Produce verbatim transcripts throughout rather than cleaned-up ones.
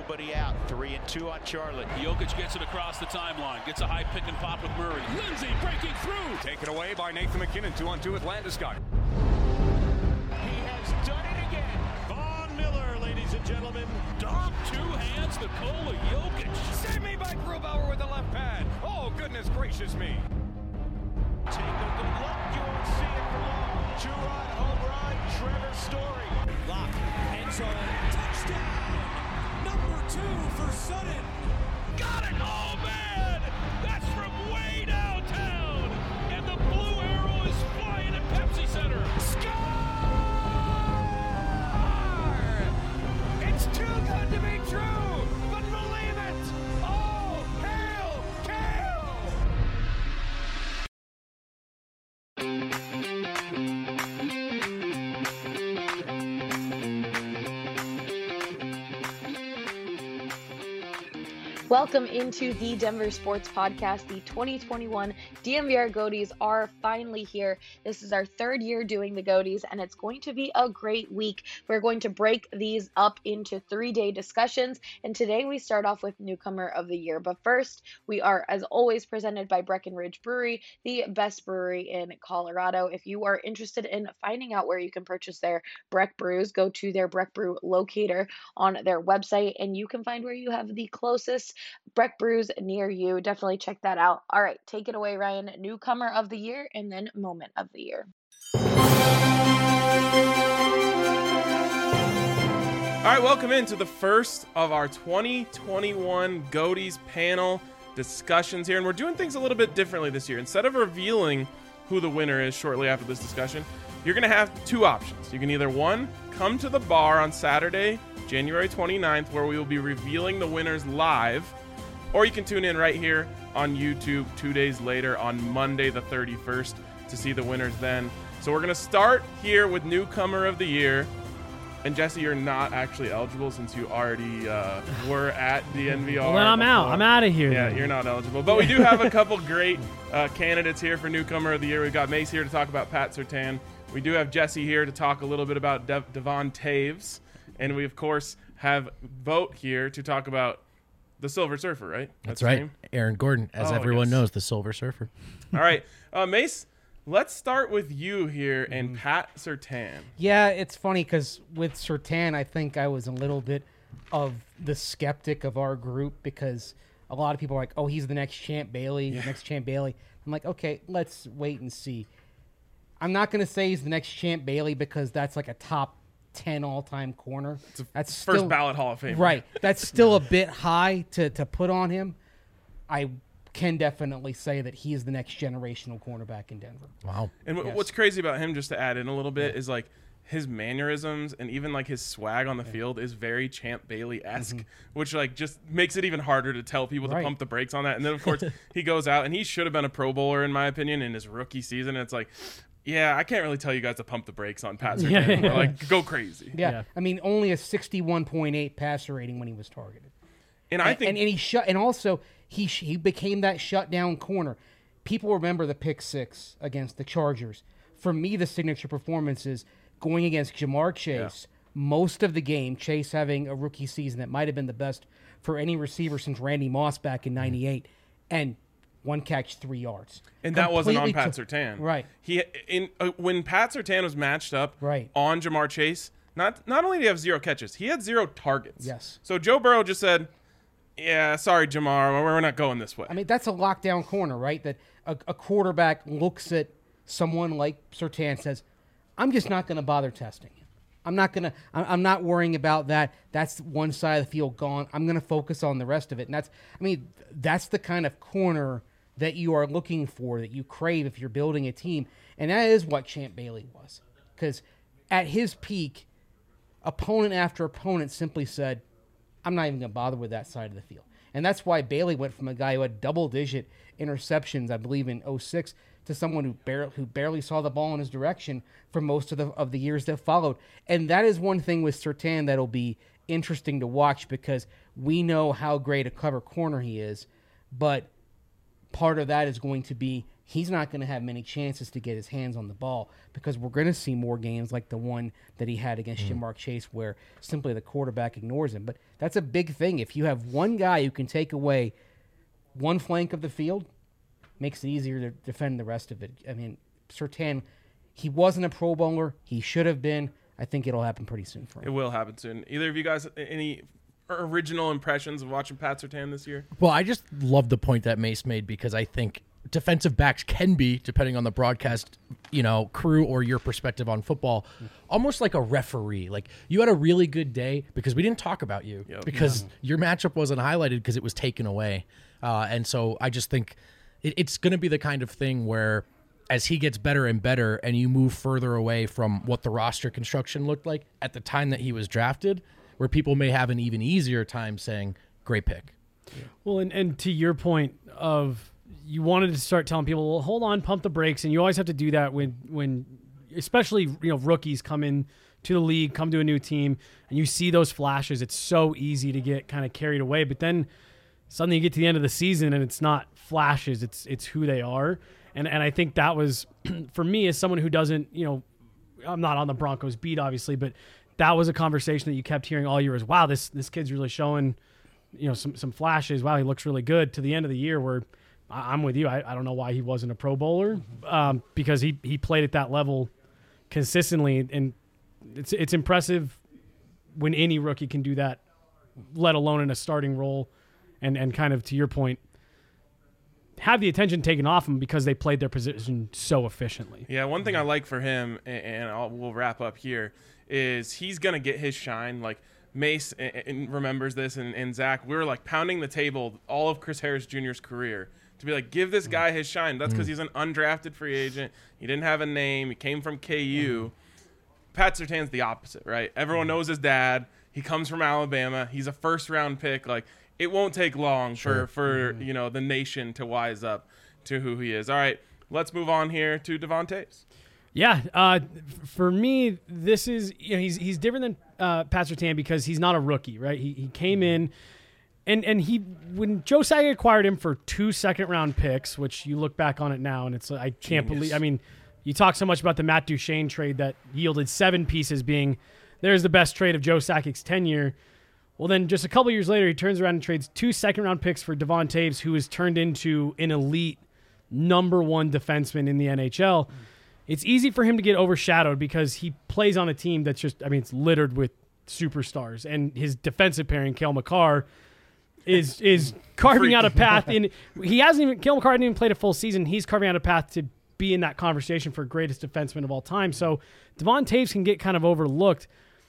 nobody out. Three and two on Charlotte. Jokic gets it across the timeline. Gets a high pick and pop with Murray. Lindsay breaking through. Taken away by Nathan McKinnon. Two on two with Landeskog. He has done it again. Von Miller, ladies and gentlemen. Dom, two hands, Nikola Jokic. Save me by Grubauer with the left pad. Oh, goodness gracious me. Take a good look. You won't see it for long. Two-run home run, Trevor Story. Lock, end zone, touchdown! Number two for Sutton. Got it! Oh, man! That's from way downtown! And the blue arrow is flying at Pepsi Center. Score! It's too good to be true, but believe it! Oh, hail, Kale! Welcome into the Denver Sports Podcast. The twenty twenty-one D N V R Goaties are finally here. This is our third year doing the Goaties, and it's going to be a great week. We're going to break these up into three-day discussions, and today we start off with Newcomer of the Year. But first, we are, as always, presented by Breckenridge Brewery, the best brewery in Colorado. If you are interested in finding out where you can purchase their Breck Brews, go to their Breck Brew locator on their website, and you can find where you have the closest Breck Brews near you. Definitely check that out. All right, take it away, Ryan. Newcomer of the Year and then Moment of the Year. All right, welcome into the first of our twenty twenty-one Goaties panel discussions here. And we're doing things a little bit differently this year. Instead of revealing who the winner is shortly after this discussion, you're going to have two options. You can either, one, come to the bar on Saturday, January twenty-ninth, where we will be revealing the winners live, or you can tune in right here on YouTube two days later on Monday the thirty-first to see the winners then. So we're going to start here with Newcomer of the Year. And Jesse, you're not actually eligible since you already uh, were at the N V R. Well, then I'm before. out. I'm out of here. Yeah, then. You're not eligible. But we do have a couple great uh, candidates here for Newcomer of the Year. We've got Mace here to talk about Pat Surtain. We do have Jesse here to talk a little bit about De- Devon Taves. And we, of course, have Vogt here to talk about the Silver Surfer, right? That's, That's right. name? Aaron Gordon, as Oh, everyone yes. knows, the Silver Surfer. All right. Uh, Mace, let's start with you here and Pat Surtain. Yeah, it's funny because with Surtain, I think I was a little bit of the skeptic of our group because a lot of people are like, oh, he's the next Champ Bailey, Yeah. the next Champ Bailey. I'm like, okay, let's wait and see. I'm not going to say he's the next Champ Bailey because that's like a top ten all-time corner. That's First still, ballot Hall of Fame. Right. That's still a bit high to, to put on him. I can definitely say that he is the next generational cornerback in Denver. Wow. And w- Yes. what's crazy about him, just to add in a little bit, is like his mannerisms and even like his swag on the field is very Champ Bailey-esque, which like just makes it even harder to tell people Right. to pump the brakes on that. And then of course he goes out and he should have been a Pro Bowler in my opinion in his rookie season. And it's like, yeah, I can't really tell you guys to pump the brakes on Pat Surtain. Yeah. We're like, go crazy. Yeah. Yeah. I mean, only a sixty-one point eight passer rating when he was targeted. And I And, think and, and he shut, and also he sh- he became that shutdown corner. People remember the pick six against the Chargers. For me, the signature performance is going against Jamar Chase. Most of the game, Chase having a rookie season that might have been the best for any receiver since Randy Moss back in ninety-eight, and one catch, three yards. And that wasn't on Completely Pat took- Surtain. Right. He in uh, when Pat Surtain was matched up Right. on Jamar Chase, not not only did he have zero catches, he had zero targets. Yes. So Joe Burrow just said, "Yeah, sorry, Jamar, we're not going this way." I mean, that's a lockdown corner, right? That a, a quarterback looks at someone like Surtain and says, I'm just not going to bother testing him. I'm not going to, I'm not worrying about that. That's one side of the field gone. I'm going to focus on the rest of it. And that's, I mean, that's the kind of corner that you are looking for, that you crave if you're building a team. And that is what Champ Bailey was. Because at his peak, opponent after opponent simply said, I'm not even going to bother with that side of the field. And that's why Bailey went from a guy who had double-digit interceptions, I believe, in oh six, to someone who barely, who barely saw the ball in his direction for most of the of the years that followed. And that is one thing with Surtain that'll be interesting to watch because we know how great a cover corner he is, but part of that is going to be he's not going to have many chances to get his hands on the ball because we're going to see more games like the one that he had against mm. Jamar Chase where simply the quarterback ignores him. But that's a big thing. If you have one guy who can take away one flank of the field, makes it easier to defend the rest of it. I mean, Surtain, he wasn't a Pro Bowler. He should have been. I think it'll happen pretty soon for him. It will happen soon. Either of you guys, any original impressions of watching Pat Surtain this year? Well, I just love the point that Mace made because I think defensive backs can be, depending on the broadcast, you know, crew or your perspective on football, almost like a referee. Like, you had a really good day because we didn't talk about you yep. because yeah. your matchup wasn't highlighted because it was taken away. Uh, and so I just think it, it's going to be the kind of thing where as he gets better and better and you move further away from what the roster construction looked like at the time that he was drafted, where people may have an even easier time saying, great pick. Yeah. Well, and, and to your point of you wanted to start telling people, well, hold on, pump the brakes, and you always have to do that when, when especially you know rookies come in to the league, come to a new team, and you see those flashes. It's so easy to get kind of carried away, but then suddenly you get to the end of the season and it's not flashes, it's it's who they are. And and I think that was, for me as someone who doesn't, you know, I'm not on the Broncos beat obviously, but that was a conversation that you kept hearing all year is, wow, this this kid's really showing, you know, some some flashes. Wow, he looks really good. To the end of the year where I, I'm with you. I, I don't know why he wasn't a Pro Bowler um, because he, he played at that level consistently. And it's it's impressive when any rookie can do that, let alone in a starting role. And, and kind of to your point, have the attention taken off them because they played their position so efficiently. Yeah, one thing I like for him, and I'll, we'll wrap up here, is he's going to get his shine. Like Mace remembers this, and, and Zach, we were like pounding the table all of Chris Harris Junior's career to be like, give this guy his shine. That's because he's an undrafted free agent. He didn't have a name. He came from K U. Pat Surtain's the opposite, right? Everyone knows his dad. He comes from Alabama. He's a first-round pick. Like, it won't take long sure. for, for mm-hmm. you know, the nation to wise up to who he is. All right, let's move on here to Devon Toews. Yeah, uh, for me, this is, you know, he's he's different than uh, Pat Surtain because he's not a rookie, right? He he came in, and and he when Joe Sakic acquired him for two second round picks, which you look back on it now, and it's I can't Genius. believe. I mean, you talk so much about the Matt Duchene trade that yielded seven pieces, being there's the best trade of Joe Sakic's tenure. Well, then just a couple years later, he turns around and trades two second-round picks for Devon Toews, who has turned into an elite number one defenseman in the N H L. Mm. It's easy for him to get overshadowed because he plays on a team that's just, I mean, it's littered with superstars. And his defensive pairing, Cale Makar, is is carving out a path. in. He hasn't even, Cale Makar hasn't even played a full season. He's carving out a path to be in that conversation for greatest defenseman of all time. So Devon Toews can get kind of overlooked.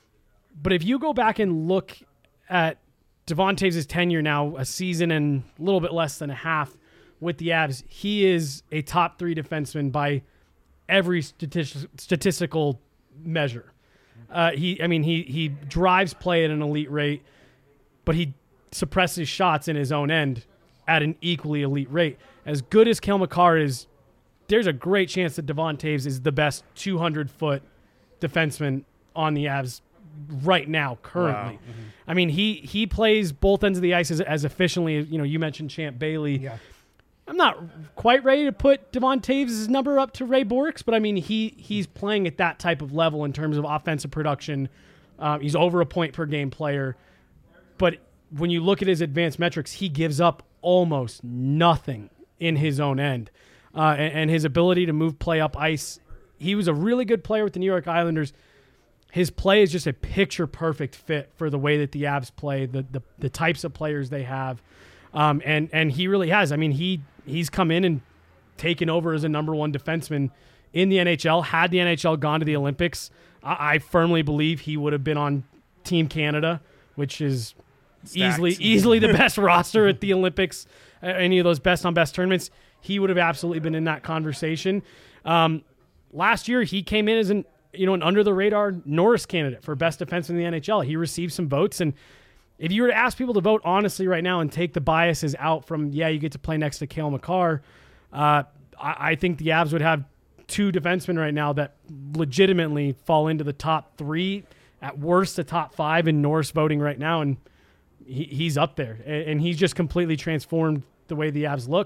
But if you go back and look at Devon Toews' tenure now, a season and a little bit less than a half with the Avs, he is a top three defenseman by every stati- statistical measure. Uh, he, I mean, he he drives play at an elite rate, but he suppresses shots in his own end at an equally elite rate. As good as Cale Makar is, there's a great chance that Devon Toews is the best two hundred foot defenseman on the Avs right now, currently. Wow. Mm-hmm. I mean, he he plays both ends of the ice as, as efficiently as, you know, you mentioned Champ Bailey. Yeah. I'm not quite ready to put Devon Toews' number up to Ray Bork's, but I mean, he he's playing at that type of level in terms of offensive production. Um, he's over a point per game player. But when you look at his advanced metrics, he gives up almost nothing in his own end. Uh, and, and his ability to move play up ice, he was a really good player with the New York Islanders. His play is just a picture-perfect fit for the way that the Avs play, the the, the types of players they have. Um, and, and he really has. I mean, he he's come in and taken over as a number one defenseman in the N H L. Had the N H L gone to the Olympics, I, I firmly believe he would have been on Team Canada, which is Stacked. easily easily the best roster at the Olympics, uh, any of those best-on-best tournaments. He would have absolutely been in that conversation. Um, last year, he came in as an you know, an under-the-radar Norris candidate for best defenseman in the N H L. He received some votes, and if you were to ask people to vote honestly right now and take the biases out from, yeah, you get to play next to Cale Makar, uh, I, I think the Avs would have two defensemen right now that legitimately fall into the top three, at worst the top five in Norris voting right now, and he, he's up there. And, and he's just completely transformed the way the Avs look.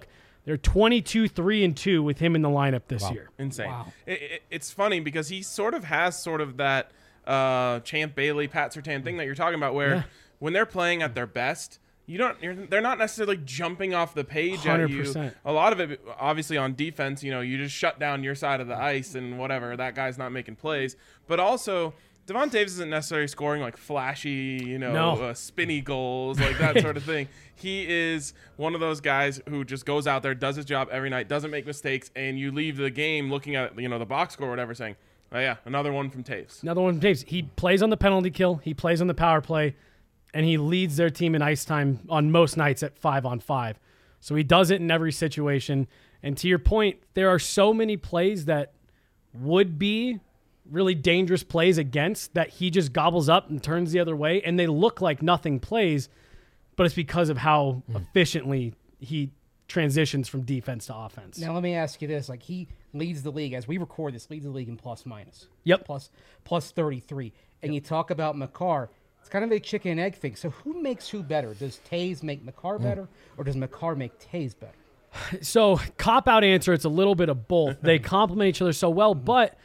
They're twenty-two, three, and two with him in the lineup this Wow. year. Insane. Wow. It, it, it's funny because he sort of has sort of that uh, Champ Bailey, Pat Surtain thing that you're talking about, where Yeah. when they're playing at their best, you don't. You're, they're not necessarily jumping off the page one hundred at you. percent. A lot of it, obviously, on defense, you know, you just shut down your side of the ice and whatever. That guy's not making plays, but also. Devon Taves isn't necessarily scoring like flashy, you know, No. uh, spinny goals, like that sort of thing. He is one of those guys who just goes out there, does his job every night, doesn't make mistakes, and you leave the game looking at, you know, the box score or whatever saying, oh, yeah, another one from Taves. Another one from Taves. He plays on the penalty kill. He plays on the power play, and he leads their team in ice time on most nights at five on five. So he does it in every situation. And to your point, there are so many plays that would be really dangerous plays against that he just gobbles up and turns the other way, and they look like nothing plays, but it's because of how mm. efficiently he transitions from defense to offense. Now let me ask you this: like he leads the league as we record this, leads the league in plus minus. Yep, plus plus thirty-three. And yep. you talk about Makar. It's kind of a chicken and egg thing. So who makes who better? Does Taves make Makar mm. better, or does Makar make Taves better? So cop out answer. It's a little bit of both. They complement each other so well, mm. but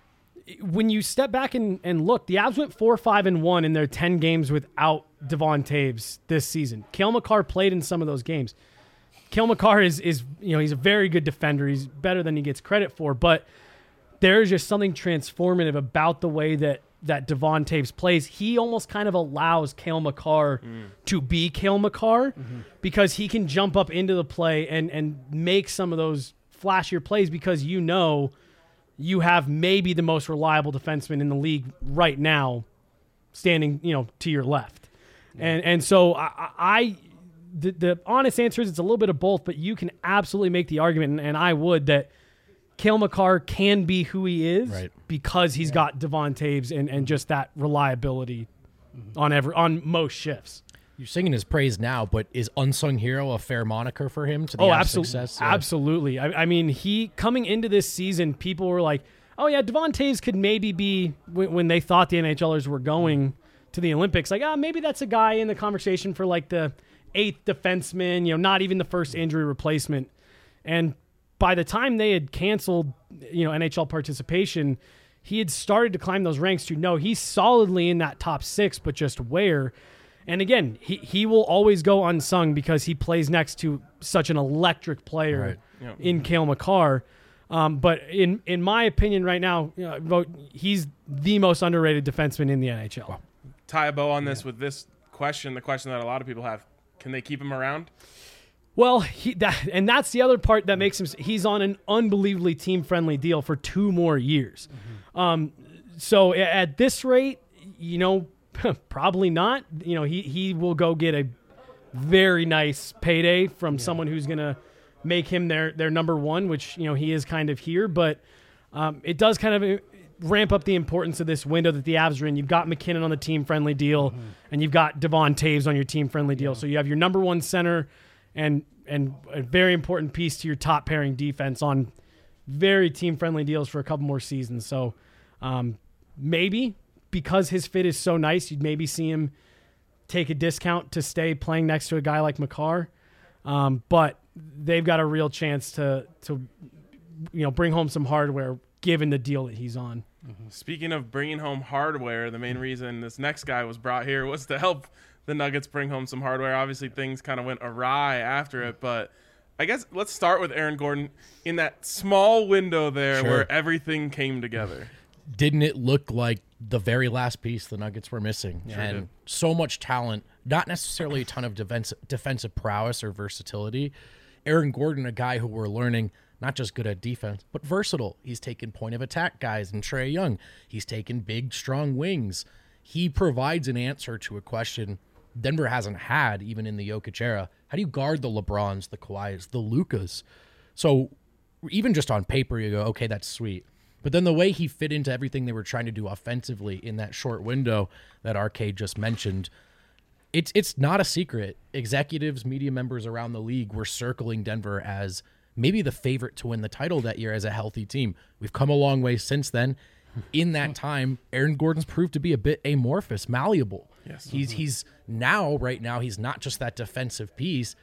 when you step back and, and look, the Avs went four, five, and one in their ten games without Devon Taves this season. Cale Makar played in some of those games. Cale Makar is, is, you know, he's a very good defender. He's better than he gets credit for, but there's just something transformative about the way that, that Devon Taves plays. He almost kind of allows Cale Makar mm. to be Cale Makar mm-hmm. because he can jump up into the play and, and make some of those flashier plays because you know you have maybe the most reliable defenseman in the league right now standing, you know, to your left. Yeah. And and so I, I the, the honest answer is it's a little bit of both, but you can absolutely make the argument, and, and I would, that Cale Makar can be who he is right. because he's yeah. got Devon Taves and, and just that reliability mm-hmm. on every on most shifts. You're singing his praise now, but is unsung hero a fair moniker for him to the oh, Avs' absolutely, success? Yeah. Absolutely. I, I mean, he coming into this season, people were like, "Oh yeah, Devon Taves could maybe be," when, when they thought the NHLers were going to the Olympics, like, "Ah, oh, maybe that's a guy in the conversation for like the eighth defenseman, you know, not even the first injury replacement." And by the time they had canceled, you know, N H L participation, he had started to climb those ranks to no, he's solidly in that top six, but just where. And again, he, he will always go unsung because he plays next to such an electric player right. yeah. in Cale Makar. Um, but in in my opinion right now, you know, he's the most underrated defenseman in the N H L. Wow. Tie a bow on this yeah. with this question, the question that a lot of people have. Can they keep him around? Well, he, that, and that's the other part that makes him – he's on an unbelievably team-friendly deal for two more years. Mm-hmm. Um, so at this rate, you know – probably not. You know, he, he will go get a very nice payday from yeah. someone who's going to make him their, their number one, which, you know, he is kind of here. But um, it does kind of ramp up the importance of this window that the Avs are in. You've got McKinnon on the team-friendly deal, mm-hmm. and you've got Devon Taves on your team-friendly deal. Yeah. So you have your number one center and and a very important piece to your top-pairing defense on very team-friendly deals for a couple more seasons. So um, maybe – because his fit is so nice, you'd maybe see him take a discount to stay playing next to a guy like Makar. Um, but they've got a real chance to, to, you know, bring home some hardware given the deal that he's on. Mm-hmm. Speaking of bringing home hardware, the main reason this next guy was brought here was to help the Nuggets bring home some hardware. Obviously, things kind of went awry after it, but I guess let's start with Aaron Gordon in that small window there sure. where everything came together. Didn't it look like the very last piece the Nuggets were missing? Sure and did. So much talent, not necessarily a ton of defense, defensive prowess or versatility. Aaron Gordon, a guy who we're learning not just good at defense, but versatile. He's taken point of attack guys in Trae Young. He's taken big, strong wings. He provides an answer to a question Denver hasn't had even in the Jokic era. How do you guard the LeBrons, the Kawhis, the Lukas? So even just on paper, you go, okay, that's sweet. But then the way he fit into everything they were trying to do offensively in that short window that Arcade just mentioned, it's it's not a secret. Executives, media members around the league were circling Denver as maybe the favorite to win the title that year as a healthy team. We've come a long way since then. In that time, Aaron Gordon's proved to be a bit amorphous, malleable. Yes. He's he's now, right now, he's not just that defensive piece,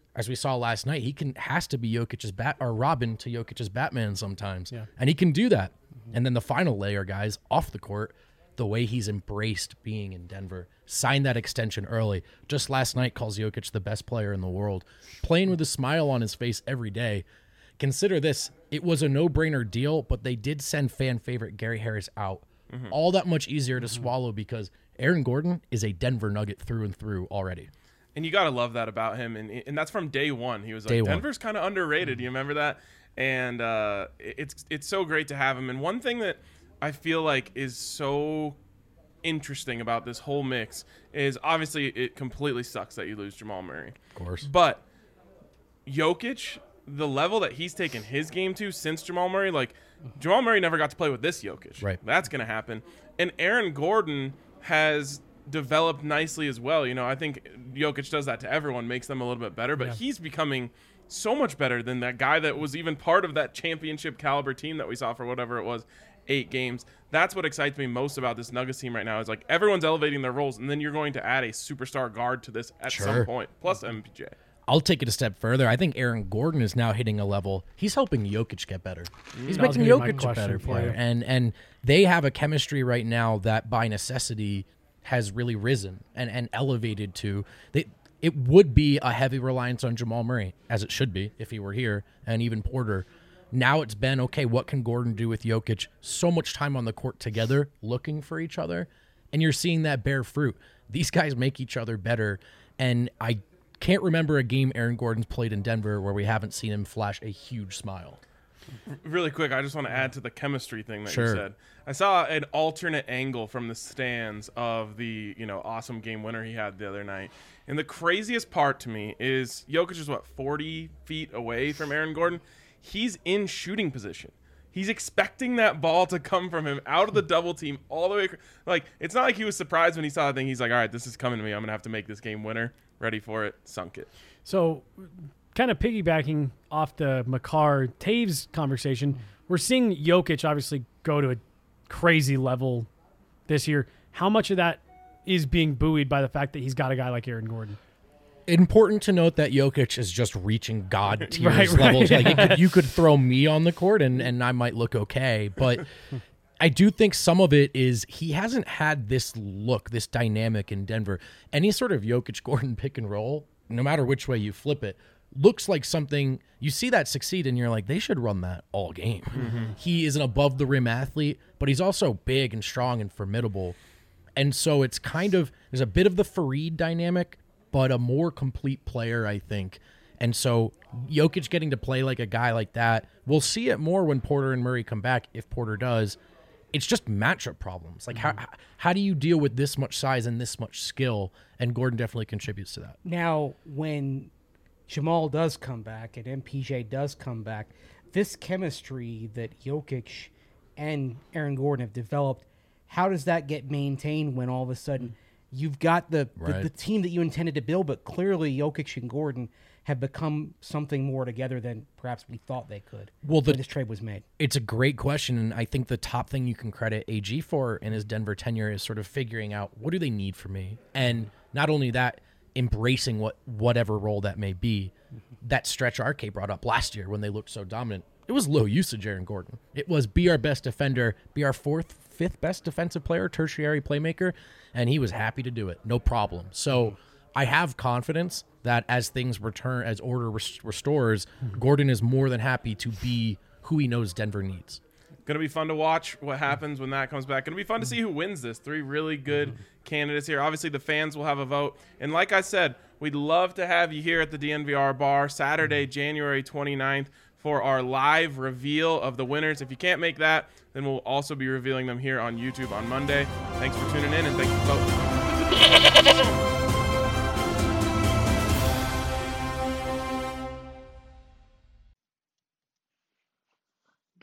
as we saw last night, he can has to be Jokic's bat or Robin to Jokic's Batman sometimes, Yeah. and he can do that. Mm-hmm. And then the final layer, guys, off the court, the way he's embraced being in Denver, signed that extension early. Just last night, calls Jokic the best player in the world, playing with a smile on his face every day. Consider this: it was a no-brainer deal, but they did send fan favorite Gary Harris out. Mm-hmm. All that much easier to mm-hmm. swallow because Aaron Gordon is a Denver Nugget through and through already. And you got to love that about him. And and that's from day one. He was like, Denver's kind of underrated. You remember that? And uh, it's it's so great to have him. And one thing that I feel like is so interesting about this whole mix is obviously it completely sucks that you lose Jamal Murray. Of course. But Jokic, the level that he's taken his game to since Jamal Murray, like Jamal Murray never got to play with this Jokic. Right. That's going to happen. And Aaron Gordon has developed nicely as well. You know, I think Jokic does that to everyone, makes them a little bit better, but yeah. he's becoming so much better than that guy that was even part of that championship caliber team that we saw for whatever it was, eight games. That's what excites me most about this Nuggets team right now is like everyone's elevating their roles, and then you're going to add a superstar guard to this at sure. some point, plus M P J. I'll take it a step further. I think Aaron Gordon is now hitting a level. He's helping Jokic get better. He's that making Jokic a better player. You. And and they have a chemistry right now that by necessity has really risen and, and elevated to they it would be a heavy reliance on Jamal Murray, as it should be if he were here, and even Porter. Now it's been, okay, what can Gordon do with Jokic? So much time on the court together, looking for each other, and you're seeing that bear fruit. These guys make each other better, and I can't remember a game Aaron Gordon's played in Denver where we haven't seen him flash a huge smile. Really quick, I just want to add to the chemistry thing that sure. you said. I saw an alternate angle from the stands of the, you know, awesome game winner he had the other night. And the craziest part to me is Jokic is, what, forty feet away from Aaron Gordon? He's in shooting position. He's expecting that ball to come from him out of the double team all the way. Like, it's not like he was surprised when he saw the thing. He's like, all right, this is coming to me. I'm going to have to make this game winner. Ready for it. Sunk it. So, kind of piggybacking off the Makar Taves conversation, we're seeing Jokic obviously go to a crazy level this year. How much of that is being buoyed by the fact that he's got a guy like Aaron Gordon? Important to note that Jokic is just reaching God tiers right, right, levels. yeah. Like it could, you could throw me on the court and, and I might look okay. But I do think some of it is he hasn't had this look, this dynamic in Denver. Any sort of Jokic-Gordon pick and roll, no matter which way you flip it, looks like something you see that succeed and you're like, they should run that all game. Mm-hmm. He is an above the rim athlete, but he's also big and strong and formidable. And so it's kind of, there's a bit of the Fareed dynamic, but a more complete player, I think. And so Jokic getting to play like a guy like that, we'll see it more when Porter and Murray come back, if Porter does. It's just matchup problems. Like, mm-hmm. how how do you deal with this much size and this much skill? And Gordon definitely contributes to that. Now, when Jamal does come back and M P J does come back, this chemistry that Jokic and Aaron Gordon have developed, how does that get maintained when all of a sudden you've got the, right. the, the team that you intended to build, but clearly Jokic and Gordon have become something more together than perhaps we thought they could well, the, when this trade was made? It's a great question, and I think the top thing you can credit A G for in his Denver tenure is sort of figuring out, what do they need from me? And not only that, embracing what whatever role that may be. Mm-hmm. That stretch R K brought up last year when they looked so dominant, it was low usage Aaron Gordon. It was be our best defender, be our fourth, fifth best defensive player, tertiary playmaker, and he was happy to do it, no problem. So I have confidence that as things return, as order res- restores, mm-hmm. Gordon is more than happy to be who he knows Denver needs. Going to be fun to watch what happens when that comes back. Going to be fun to see who wins this. Three really good mm-hmm. candidates here. Obviously, the fans will have a vote. And like I said, we'd love to have you here at the D N V R bar Saturday, January twenty-ninth for our live reveal of the winners. If you can't make that, then we'll also be revealing them here on YouTube on Monday. Thanks for tuning in, and thank you for voting.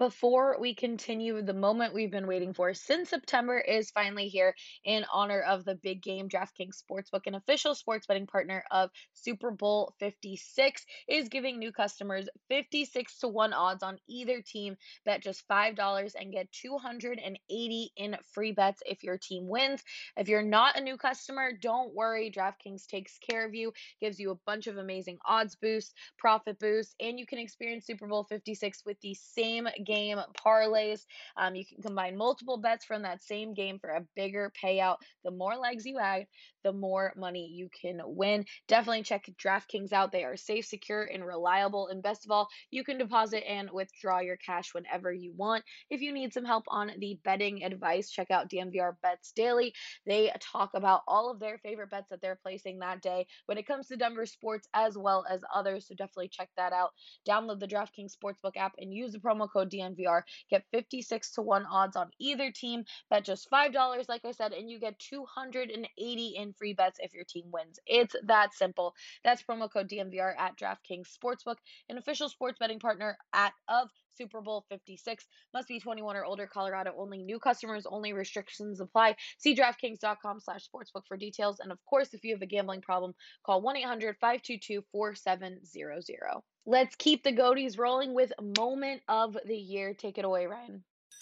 Before we continue, the moment we've been waiting for since September is finally here in honor of the big game. DraftKings Sportsbook, an official sports betting partner of Super Bowl fifty-six, is giving new customers fifty-six to one odds on either team. Bet just five dollars and get two hundred eighty in free bets if your team wins. If you're not a new customer, don't worry. DraftKings takes care of you, gives you a bunch of amazing odds boosts, profit boosts, and you can experience Super Bowl fifty-six with the same game parlays. Um, you can combine multiple bets from that same game for a bigger payout. The more legs you add, the more money you can win. Definitely check DraftKings out. They are safe, secure, and reliable. And best of all, you can deposit and withdraw your cash whenever you want. If you need some help on the betting advice, check out D N V R Bets Daily. They talk about all of their favorite bets that they're placing that day when it comes to Denver sports as well as others. So definitely check that out. Download the DraftKings Sportsbook app and use the promo code D N V R. Get fifty-six to one odds on either team. Bet just five dollars, like I said, and you get two hundred eighty in free bets if your team wins. It's that simple. That's promo code D N V R at DraftKings Sportsbook, an official sports betting partner at of Super Bowl fifty-six. Must be twenty-one or older. Colorado only. New customers only. Restrictions apply. See DraftKings.com slash sportsbook for details. And of course, if you have a gambling problem, call one eight hundred five two two four seven zero zero. Let's keep the Goaties rolling with moment of the year. Take it away, Ryan.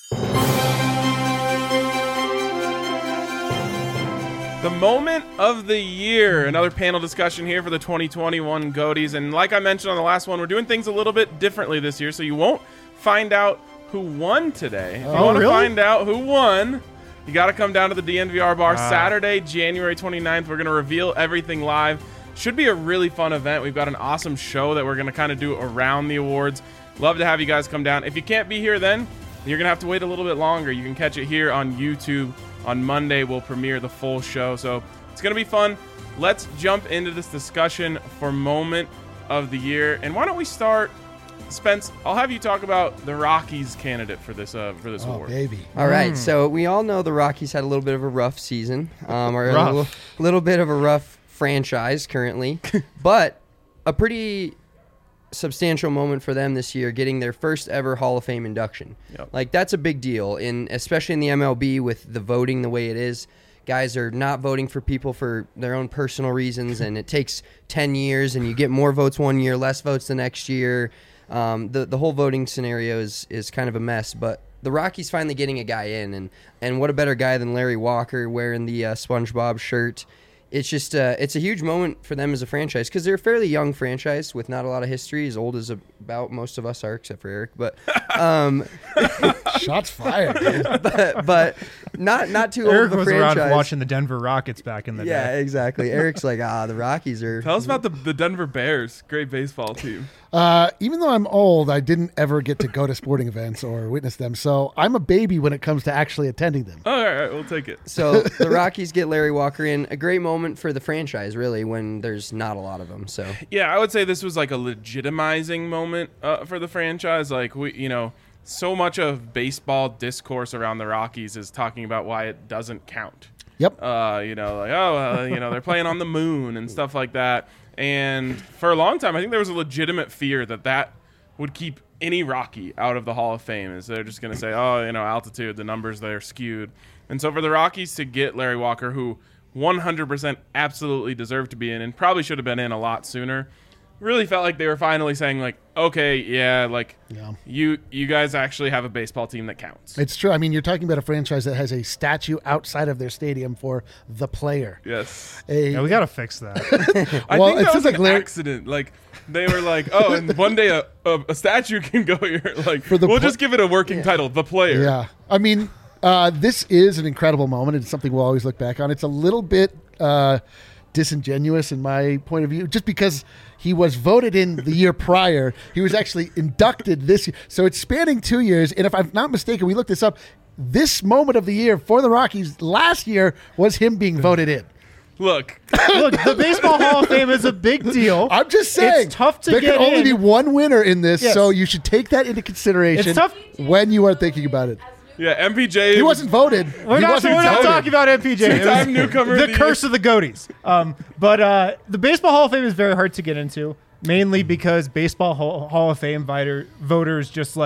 The moment of the year. Another panel discussion here for the twenty twenty-one Goaties. And like I mentioned on the last one, we're doing things a little bit differently this year, so you won't find out who won today. If you oh, want to really? find out who won, you got to come down to the D N V R bar ah. Saturday, January twenty-ninth. We're going to reveal everything live. Should be a really fun event. We've got an awesome show that we're going to kind of do around the awards. Love to have you guys come down. If you can't be here then, you're going to have to wait a little bit longer. You can catch it here on YouTube. On Monday, we'll premiere the full show. So it's going to be fun. Let's jump into this discussion for moment of the year. And why don't we start, Spence, I'll have you talk about the Rockies candidate for this uh, for this oh, award. baby. All right, mm. so we all know the Rockies had a little bit of a rough season, um, or rough. a little, little bit of a rough franchise currently, but a pretty substantial moment for them this year, getting their first ever Hall of Fame induction. Yep. Like, that's a big deal, in especially in the M L B with the voting the way it is. Guys are not voting for people for their own personal reasons, and it takes ten years, and you get more votes one year, less votes the next year. Um, the the whole voting scenario is is kind of a mess, but the Rockies finally getting a guy in, and and what a better guy than Larry Walker wearing the uh, SpongeBob shirt. It's just uh, it's a huge moment for them as a franchise, because they're a fairly young franchise with not a lot of history, as old as about most of us are, except for Eric. But um, shots fired, dude. but, but not not too Eric old of a was franchise. around watching the Denver Rockets back in the yeah, day. Yeah, exactly. Eric's like, ah, the Rockies are. Tell us about the the Denver Bears, great baseball team. Uh, even though I'm old, I didn't ever get to go to sporting events or witness them, so I'm a baby when it comes to actually attending them. Oh, all right, we'll take it. So the Rockies get Larry Walker in. A great moment for the franchise, really, when there's not a lot of them. So yeah, I would say this was like a legitimizing moment uh, for the franchise. Like, we, you know, so much of baseball discourse around the Rockies is talking about why it doesn't count. Yep. Uh, you know, like, oh, uh, you know, they're playing on the moon and stuff like that. And for a long time, I think there was a legitimate fear that that would keep any Rocky out of the Hall of Fame. Is they're just going to say, oh, you know, altitude, the numbers there skewed. And so for the Rockies to get Larry Walker, who one hundred percent absolutely deserved to be in and probably should have been in a lot sooner, really felt like they were finally saying, like, okay, yeah, like, yeah. you you guys actually have a baseball team that counts. It's true. I mean, you're talking about a franchise that has a statue outside of their stadium for the player. Yes. A, yeah, we got to fix that. I well, think it that sounds was like an Larry- accident. Like, they were like, oh, and one day a, a, a statue can go here. Like, For the we'll pl- just give it a working yeah. title, The Player. Yeah. I mean, uh, this is an incredible moment. It's something we'll always look back on. It's a little bit uh, disingenuous in my point of view, just because he was voted in the year prior. He was actually inducted this year. So it's spanning two years. And if I'm not mistaken, we looked this up. This moment of the year for the Rockies last year was him being voted in. Look. Look, the Baseball Hall of Fame is a big deal. I'm just saying. It's tough to there get can only in. be one winner in this, Yes. so you should take that into consideration It's tough. when you are thinking about it. Yeah, M P J. He wasn't voted. We're he not, wasn't we're not voted. talking about M P J. It Two-time was newcomer the of the curse year. of the Goaties. Um, but uh, the Baseball Hall of Fame is very hard to get into, mainly because Baseball Hall, Hall of Fame viter, voters just like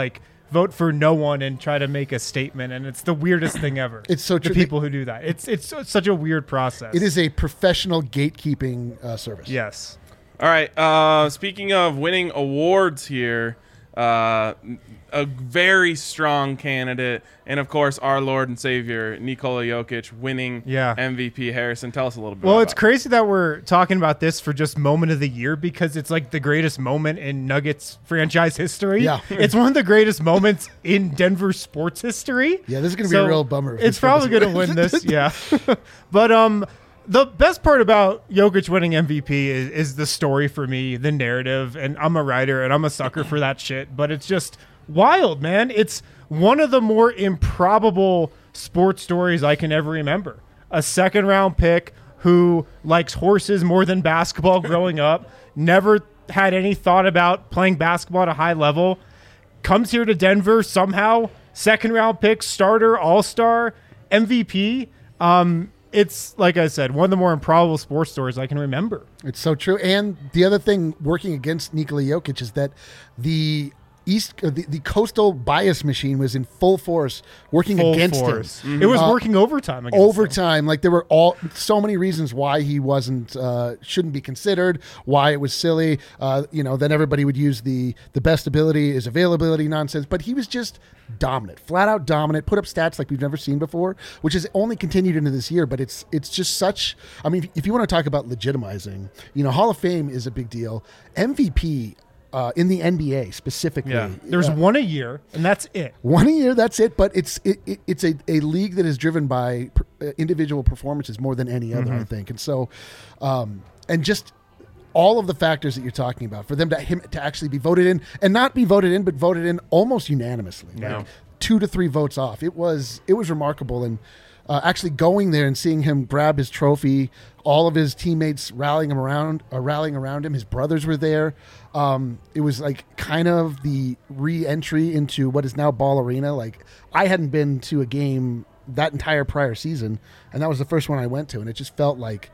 vote for no one and try to make a statement, and it's the weirdest thing ever. It's so true. The people who do that. It's it's so- such a weird process. It is a professional gatekeeping uh, service. Yes. All right. Uh, speaking of winning awards here, uh, a very strong candidate, and of course our Lord and Savior Nikola Jokic winning Yeah. M V P. Harrison, tell us a little bit. Well, about it's crazy that we're talking about this for just moment of the year because it's like the greatest moment in Nuggets franchise history. Yeah. It's one of the greatest moments in Denver sports history. Yeah, this is going to be a real bummer if It's this probably doesn't going to win. win this, yeah. But um, the best part about Jokic winning M V P is, is the story for me, the narrative, and I'm a writer and I'm a sucker for that shit. But it's just wild, man. It's one of the more improbable sports stories I can ever remember. A second round pick who likes horses more than basketball growing up, never had any thought about playing basketball at a high level, comes here to Denver somehow, second round pick, starter, all-star, M V P. Um, it's, like I said, one of the more improbable sports stories I can remember. It's so true. And the other thing working against Nikola Jokic is that the East, uh, the, the coastal bias machine was in full force working Full against force. him. It was Uh, working overtime against overtime. Like there were all so many reasons why he wasn't uh, shouldn't be considered. Why it was silly. Uh, you know, then everybody would use the the best ability is availability nonsense. But he was just dominant, flat out dominant. Put up stats like we've never seen before, which has only continued into this year. But it's it's just such. I mean, if you want to talk about legitimizing, you know, Hall of Fame is a big deal. M V P. Uh, in the N B A specifically, Yeah. There's uh, one a year, and that's it. One a year, that's it. But it's it, it, it's a, a league that is driven by per, uh, individual performances more than any other, Mhm. I think. And so, um, and just all of the factors that you're talking about for them to him to actually be voted in and not be voted in, but voted in almost unanimously, Yeah. like two to three votes off. It was it was remarkable, and uh, actually going there and seeing him grab his trophy, all of his teammates rallying him around, uh, rallying around him. His brothers were there. Um, it was like kind of the re-entry into what is now Ball Arena. Like I hadn't been to a game that entire prior season, and that was the first one I went to, and it just felt like,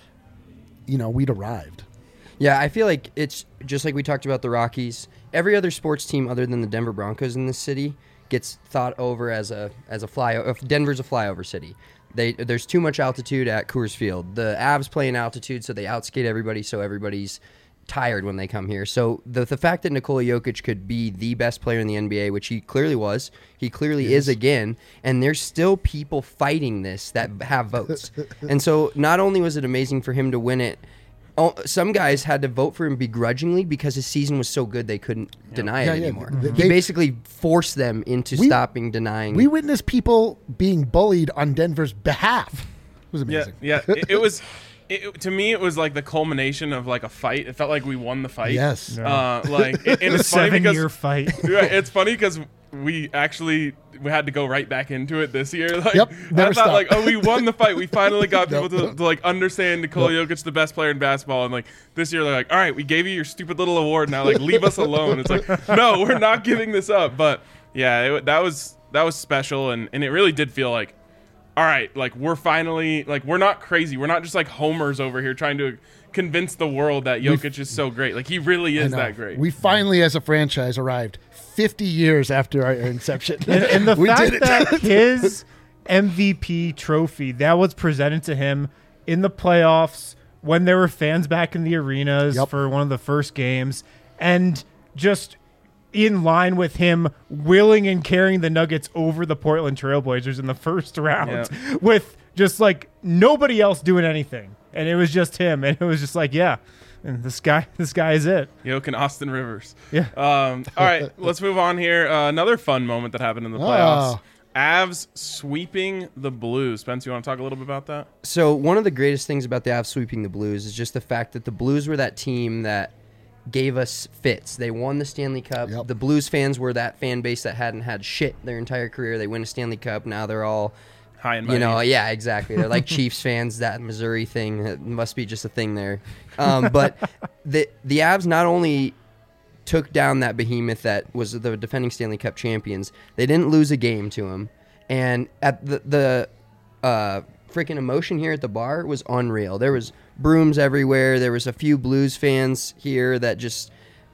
you know, we'd arrived. Yeah, I feel like it's just like we talked about the Rockies. Every other sports team other than the Denver Broncos in this city gets thought over as a as a flyover. If Denver's a flyover city. They there's too much altitude at Coors Field. The Avs play in altitude, so they outskate everybody. So everybody's tired when they come here. So the the fact that Nikola Jokic could be the best player in the N B A, which he clearly was, he clearly Yes. is again, and there's still people fighting this that have votes. And so not only was it amazing for him to win it, oh, some guys had to vote for him begrudgingly because his season was so good they couldn't deny Yeah, it yeah, anymore. they- he basically forced them into We- stopping denying. We witnessed people being bullied on Denver's behalf. It was Yeah, amazing. yeah. It, it was. It, to me, it was like the culmination of like a fight. It felt like we won the fight. Yes. Uh, like, and The it's funny because seven-year fight. Yeah, it's funny because we actually we had to go right back into it this year. Like, Yep, I never thought stopped. like, oh, we won the fight. We finally got people Nope. to, to like understand Nikola Jokic, the best player in basketball, and like this year they're like, all right, we gave you your stupid little award. Now like leave us alone. It's like, no, we're not giving this up. But yeah, it, that was that was special, and and it really did feel like, all right, like we're finally like we're not crazy. We're not just like homers over here trying to convince the world that Jokic is so great. Like he really I is know. that great. We finally, as a franchise, arrived fifty years after our inception. And, and the We fact did it. that his M V P trophy that was presented to him in the playoffs when there were fans back in the arenas Yep. for one of the first games, and just in line with him willing and carrying the Nuggets over the Portland Trailblazers in the first round Yeah. with just like nobody else doing anything. And it was just him. And it was just like, yeah, and this guy, this guy is it. Yoke and Austin Rivers. Yeah. Um, all right, let's move on here. Uh, another fun moment that happened in the playoffs. Oh. Avs sweeping the Blues. Spence, you want to talk a little bit about that? So one of the greatest things about the Avs sweeping the Blues is just the fact that the Blues were that team that gave us fits. They won the Stanley Cup. Yep. The Blues fans were that fan base that hadn't had shit their entire career. They win a Stanley Cup. Now they're all, High and you know, mighty. yeah, exactly. They're like Chiefs fans. That Missouri thing it must be just a thing there. Um, but the the Avs not only took down that behemoth that was the defending Stanley Cup champions, they didn't lose a game to him. And at the the uh, freaking emotion here at the bar was unreal. There was brooms everywhere. There was a few Blues fans here that just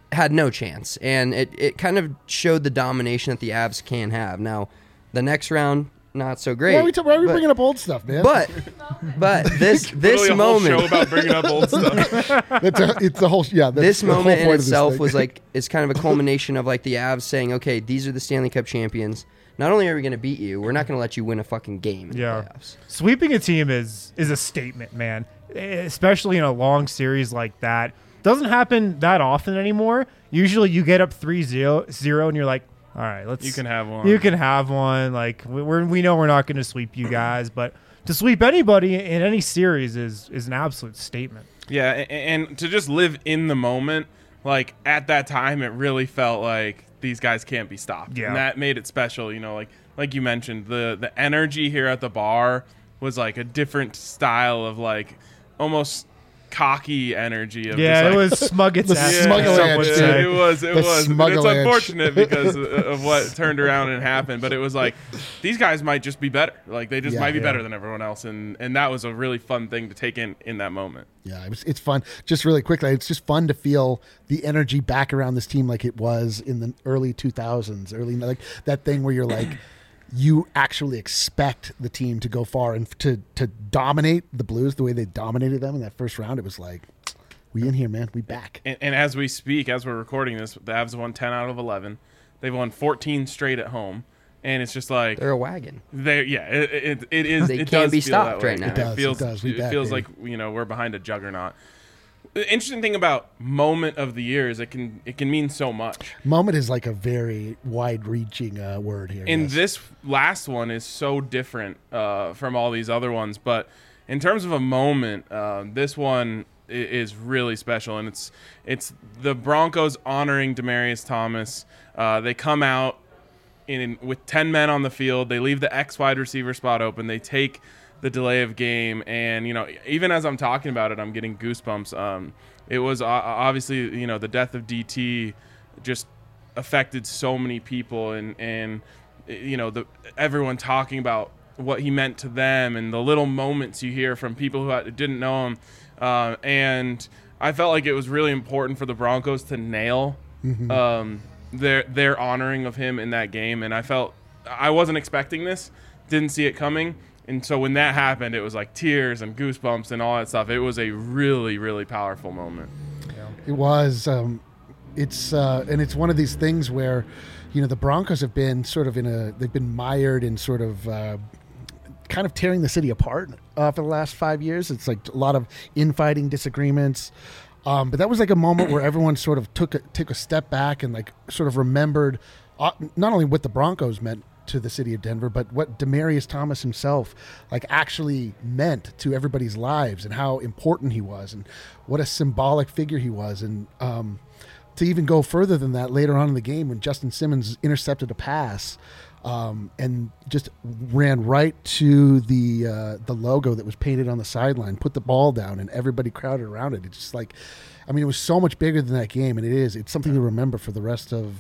had no chance. And it, it kind of showed the domination that the Avs can have. Now, the next round, not so great. Why are we, t- why are we but, bringing up old stuff, man? But but this this Literally a moment whole show about bringing up old stuff. that's a, it's the whole yeah. That's this the whole moment in point of this itself thing. was like it's kind of a culmination of like the Avs saying, okay, these are the Stanley Cup champions. Not only are we going to beat you, we're not going to let you win a fucking game in Yeah. the playoffs. Sweeping a team is is a statement, man. Especially in a long series like that. Doesn't happen that often anymore. Usually you get up three zero and you're like, all right, let's You can have one. You can have one. Like we- we're we know we're not going to sweep you guys, but to sweep anybody in any series is is an absolute statement. Yeah, a- and to just live in the moment, like at that time, it really felt like these guys can't be stopped. Yeah. And that made it special, you know, like like you mentioned, the the energy here at the bar was like a different style of like almost cocky energy of Yeah, just, it like, was smug its The ass. Yeah, smuggle some edge, would dude. say. it was, it The was. And smuggle it's edge. unfortunate because of- of what turned around and happened, but it was like these guys might just be better. Like they just Yeah. might be Yeah. better than everyone else, and and that was a really fun thing to take in in that moment. Yeah, it was, it's fun. Just really quickly, it's just fun to feel the energy back around this team like it was in the early two thousands, early like that thing where you're like, you actually expect the team to go far and to to dominate the Blues the way they dominated them in that first round. It was like, we in here, man. We back. And, and as we speak, as we're recording this, the Avs won ten out of eleven. They've won fourteen straight at home, and it's just like They're a wagon. they yeah, it, it, it is. They it can't does be feel that stopped way. right now. It does, it feels, does. We it back, feels baby. like you know we're behind a juggernaut. The interesting thing about moment of the year is it can it can mean so much. Moment is like a very wide-reaching uh, word here. And yes. this last one is so different uh, from all these other ones, but in terms of a moment, uh, this one i- is really special, and it's it's the Broncos honoring Demaryius Thomas. Uh, they come out in with ten men on the field. They leave the X wide receiver spot open. They take the delay of game, and you know, even as I'm talking about it, I'm getting goosebumps. Um, it was uh, obviously, you know, the death of D T just affected so many people, and and you know, the everyone talking about what he meant to them, and the little moments you hear from people who had- didn't know him, uh, and I felt like it was really important for the Broncos to nail Mhm. um, their their honoring of him in that game, and I felt I wasn't expecting this, didn't see it coming. And so when that happened, it was like tears and goosebumps and all that stuff. It was a really, really powerful moment. It was. Um, it's uh, and it's one of these things where, you know, the Broncos have been sort of in a. They've been mired in sort of. Uh, kind of tearing the city apart uh, for the last five years. It's like a lot of infighting, disagreements. Um, but that was like a moment where everyone sort of took a, took a step back and like sort of remembered uh, not only what the Broncos meant to the city of Denver, but what Demaryius Thomas himself like actually meant to everybody's lives and how important he was and what a symbolic figure he was. And um, to even go further than that later on in the game when Justin Simmons intercepted a pass um, and just ran right to the uh, the logo that was painted on the sideline, put the ball down, and everybody crowded around it. It's just like, I mean, it was so much bigger than that game, and it is. It's something to remember for the rest of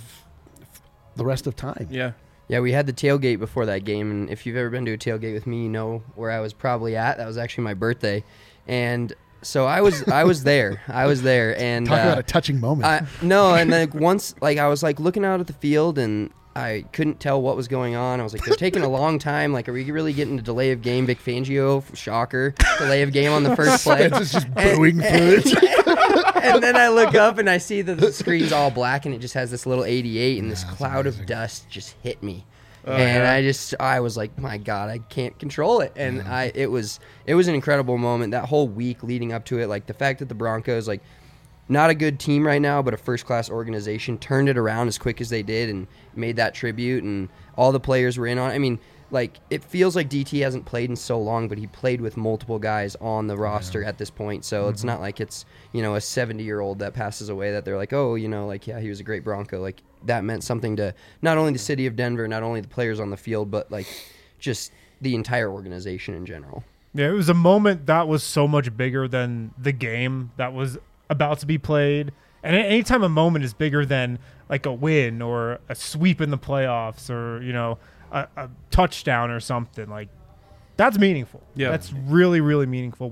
the rest of time. Yeah. Yeah, we had the tailgate before that game, and if you've ever been to a tailgate with me, you know where I was probably at. That was actually my birthday, and so I was I was there. I was there, and Talk uh, about a touching moment. I, no, and then once like I was like looking out at the field, and I couldn't tell what was going on. I was like, they're taking a long time. Like, are we really getting a delay of game? Vic Fangio, shocker, delay of game on the first play. It's just booing through it. And then I look up and I see that the screen's all black and it just has this little eighty-eight and this cloud of dust just hit me. Oh, and yeah. I just I was like, my God, I can't control it. And I it was it was an incredible moment. That whole week leading up to it, like the fact that the Broncos, like not a good team right now, but a first class organization, turned it around as quick as they did and made that tribute, and all the players were in on it. I mean, like it feels like D T hasn't played in so long, but he played with multiple guys on the roster at this point. So Mm-hmm. it's not like it's, you know, a seventy year old that passes away that they're like, oh, you know, like, yeah, he was a great Bronco. Like that meant something to not only the city of Denver, not only the players on the field, but like just the entire organization in general. Yeah, it was a moment that was so much bigger than the game that was about to be played. And anytime a moment is bigger than like a win or a sweep in the playoffs or, you know, a, a touchdown or something, like that's meaningful. Yeah. That's really, really meaningful when it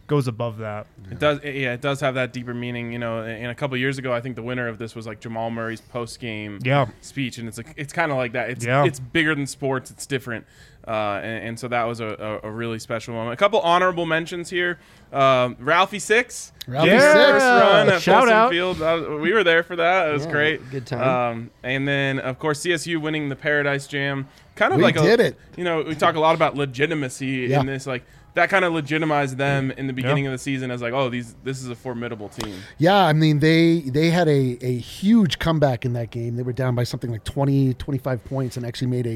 goes above that. It does, yeah. It does have that deeper meaning, you know. And a couple years ago, I think the winner of this was like Jamal Murray's post game yeah. speech, and it's like it's kind of like that. It's yeah. it's bigger than sports. It's different, uh, and, and so that was a, a, a really special moment. A couple honorable mentions here. Um, Ralphie Six, Ralphie yeah. Six, run at Shout Folsom out. Field. Uh, we were there for that. It was Yeah, great. good time. Um, and then of course C S U winning the Paradise Jam. Kind of We like did a, it. You know, we talk a lot about legitimacy Yeah. in this, like. That kind of legitimized them in the beginning of the season as like, oh, these this is a formidable team. Yeah, I mean, they they had a, a huge comeback in that game. They were down by something like twenty, twenty-five points and actually made a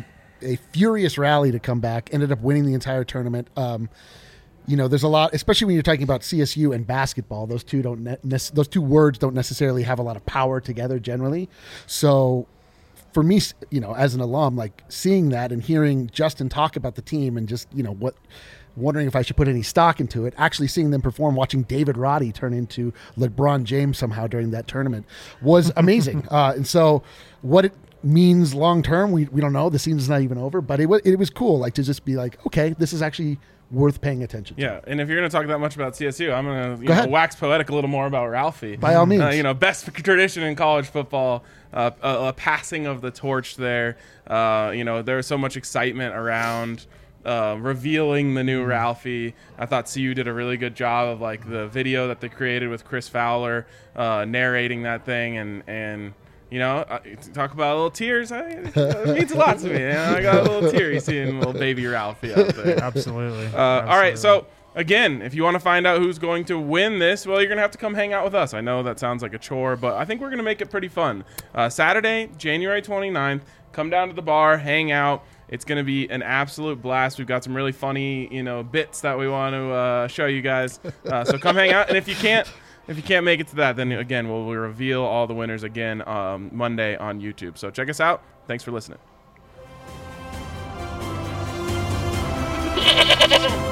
a furious rally to come back, ended up winning the entire tournament. Um, you know, there's a lot, especially when you're talking about C S U and basketball. Those two don't ne- ne- those two words don't necessarily have a lot of power together generally. So for me, you know, as an alum, like seeing that and hearing Justin talk about the team and just, you know, what wondering if I should put any stock into it, actually seeing them perform, watching David Roddy turn into LeBron James somehow during that tournament was amazing. uh, and so what it means long term, we, we don't know. The season's not even over, but it was, it was cool, like to just be like, okay, this is actually worth paying attention to. Yeah, and if you're going to talk that much about C S U, I'm going to Go know, ahead. wax poetic a little more about Ralphie. By all means. Uh, you know, best tradition in college football, uh, a, a passing of the torch there. Uh, you know, there was so much excitement around uh, revealing the new Ralphie. I thought C U did a really good job of like the video that they created with Chris Fowler uh, narrating that thing, and and you know, uh, talk about little tears. I, it means a lot to me. You know, I got a little teary seeing little baby Ralphie out there. Absolutely. Uh, all right, so again, if you want to find out who's going to win this, well, you're going to have to come hang out with us. I know that sounds like a chore, but I think we're going to make it pretty fun. Uh, Saturday, January twenty-ninth, come down to the bar, hang out. It's going to be an absolute blast. We've got some really funny, you know, bits that we want to uh, show you guys. Uh, so come hang out. And if you can't, if you can't make it to that, then again, we'll, we'll reveal all the winners again um, Monday on YouTube. So check us out. Thanks for listening.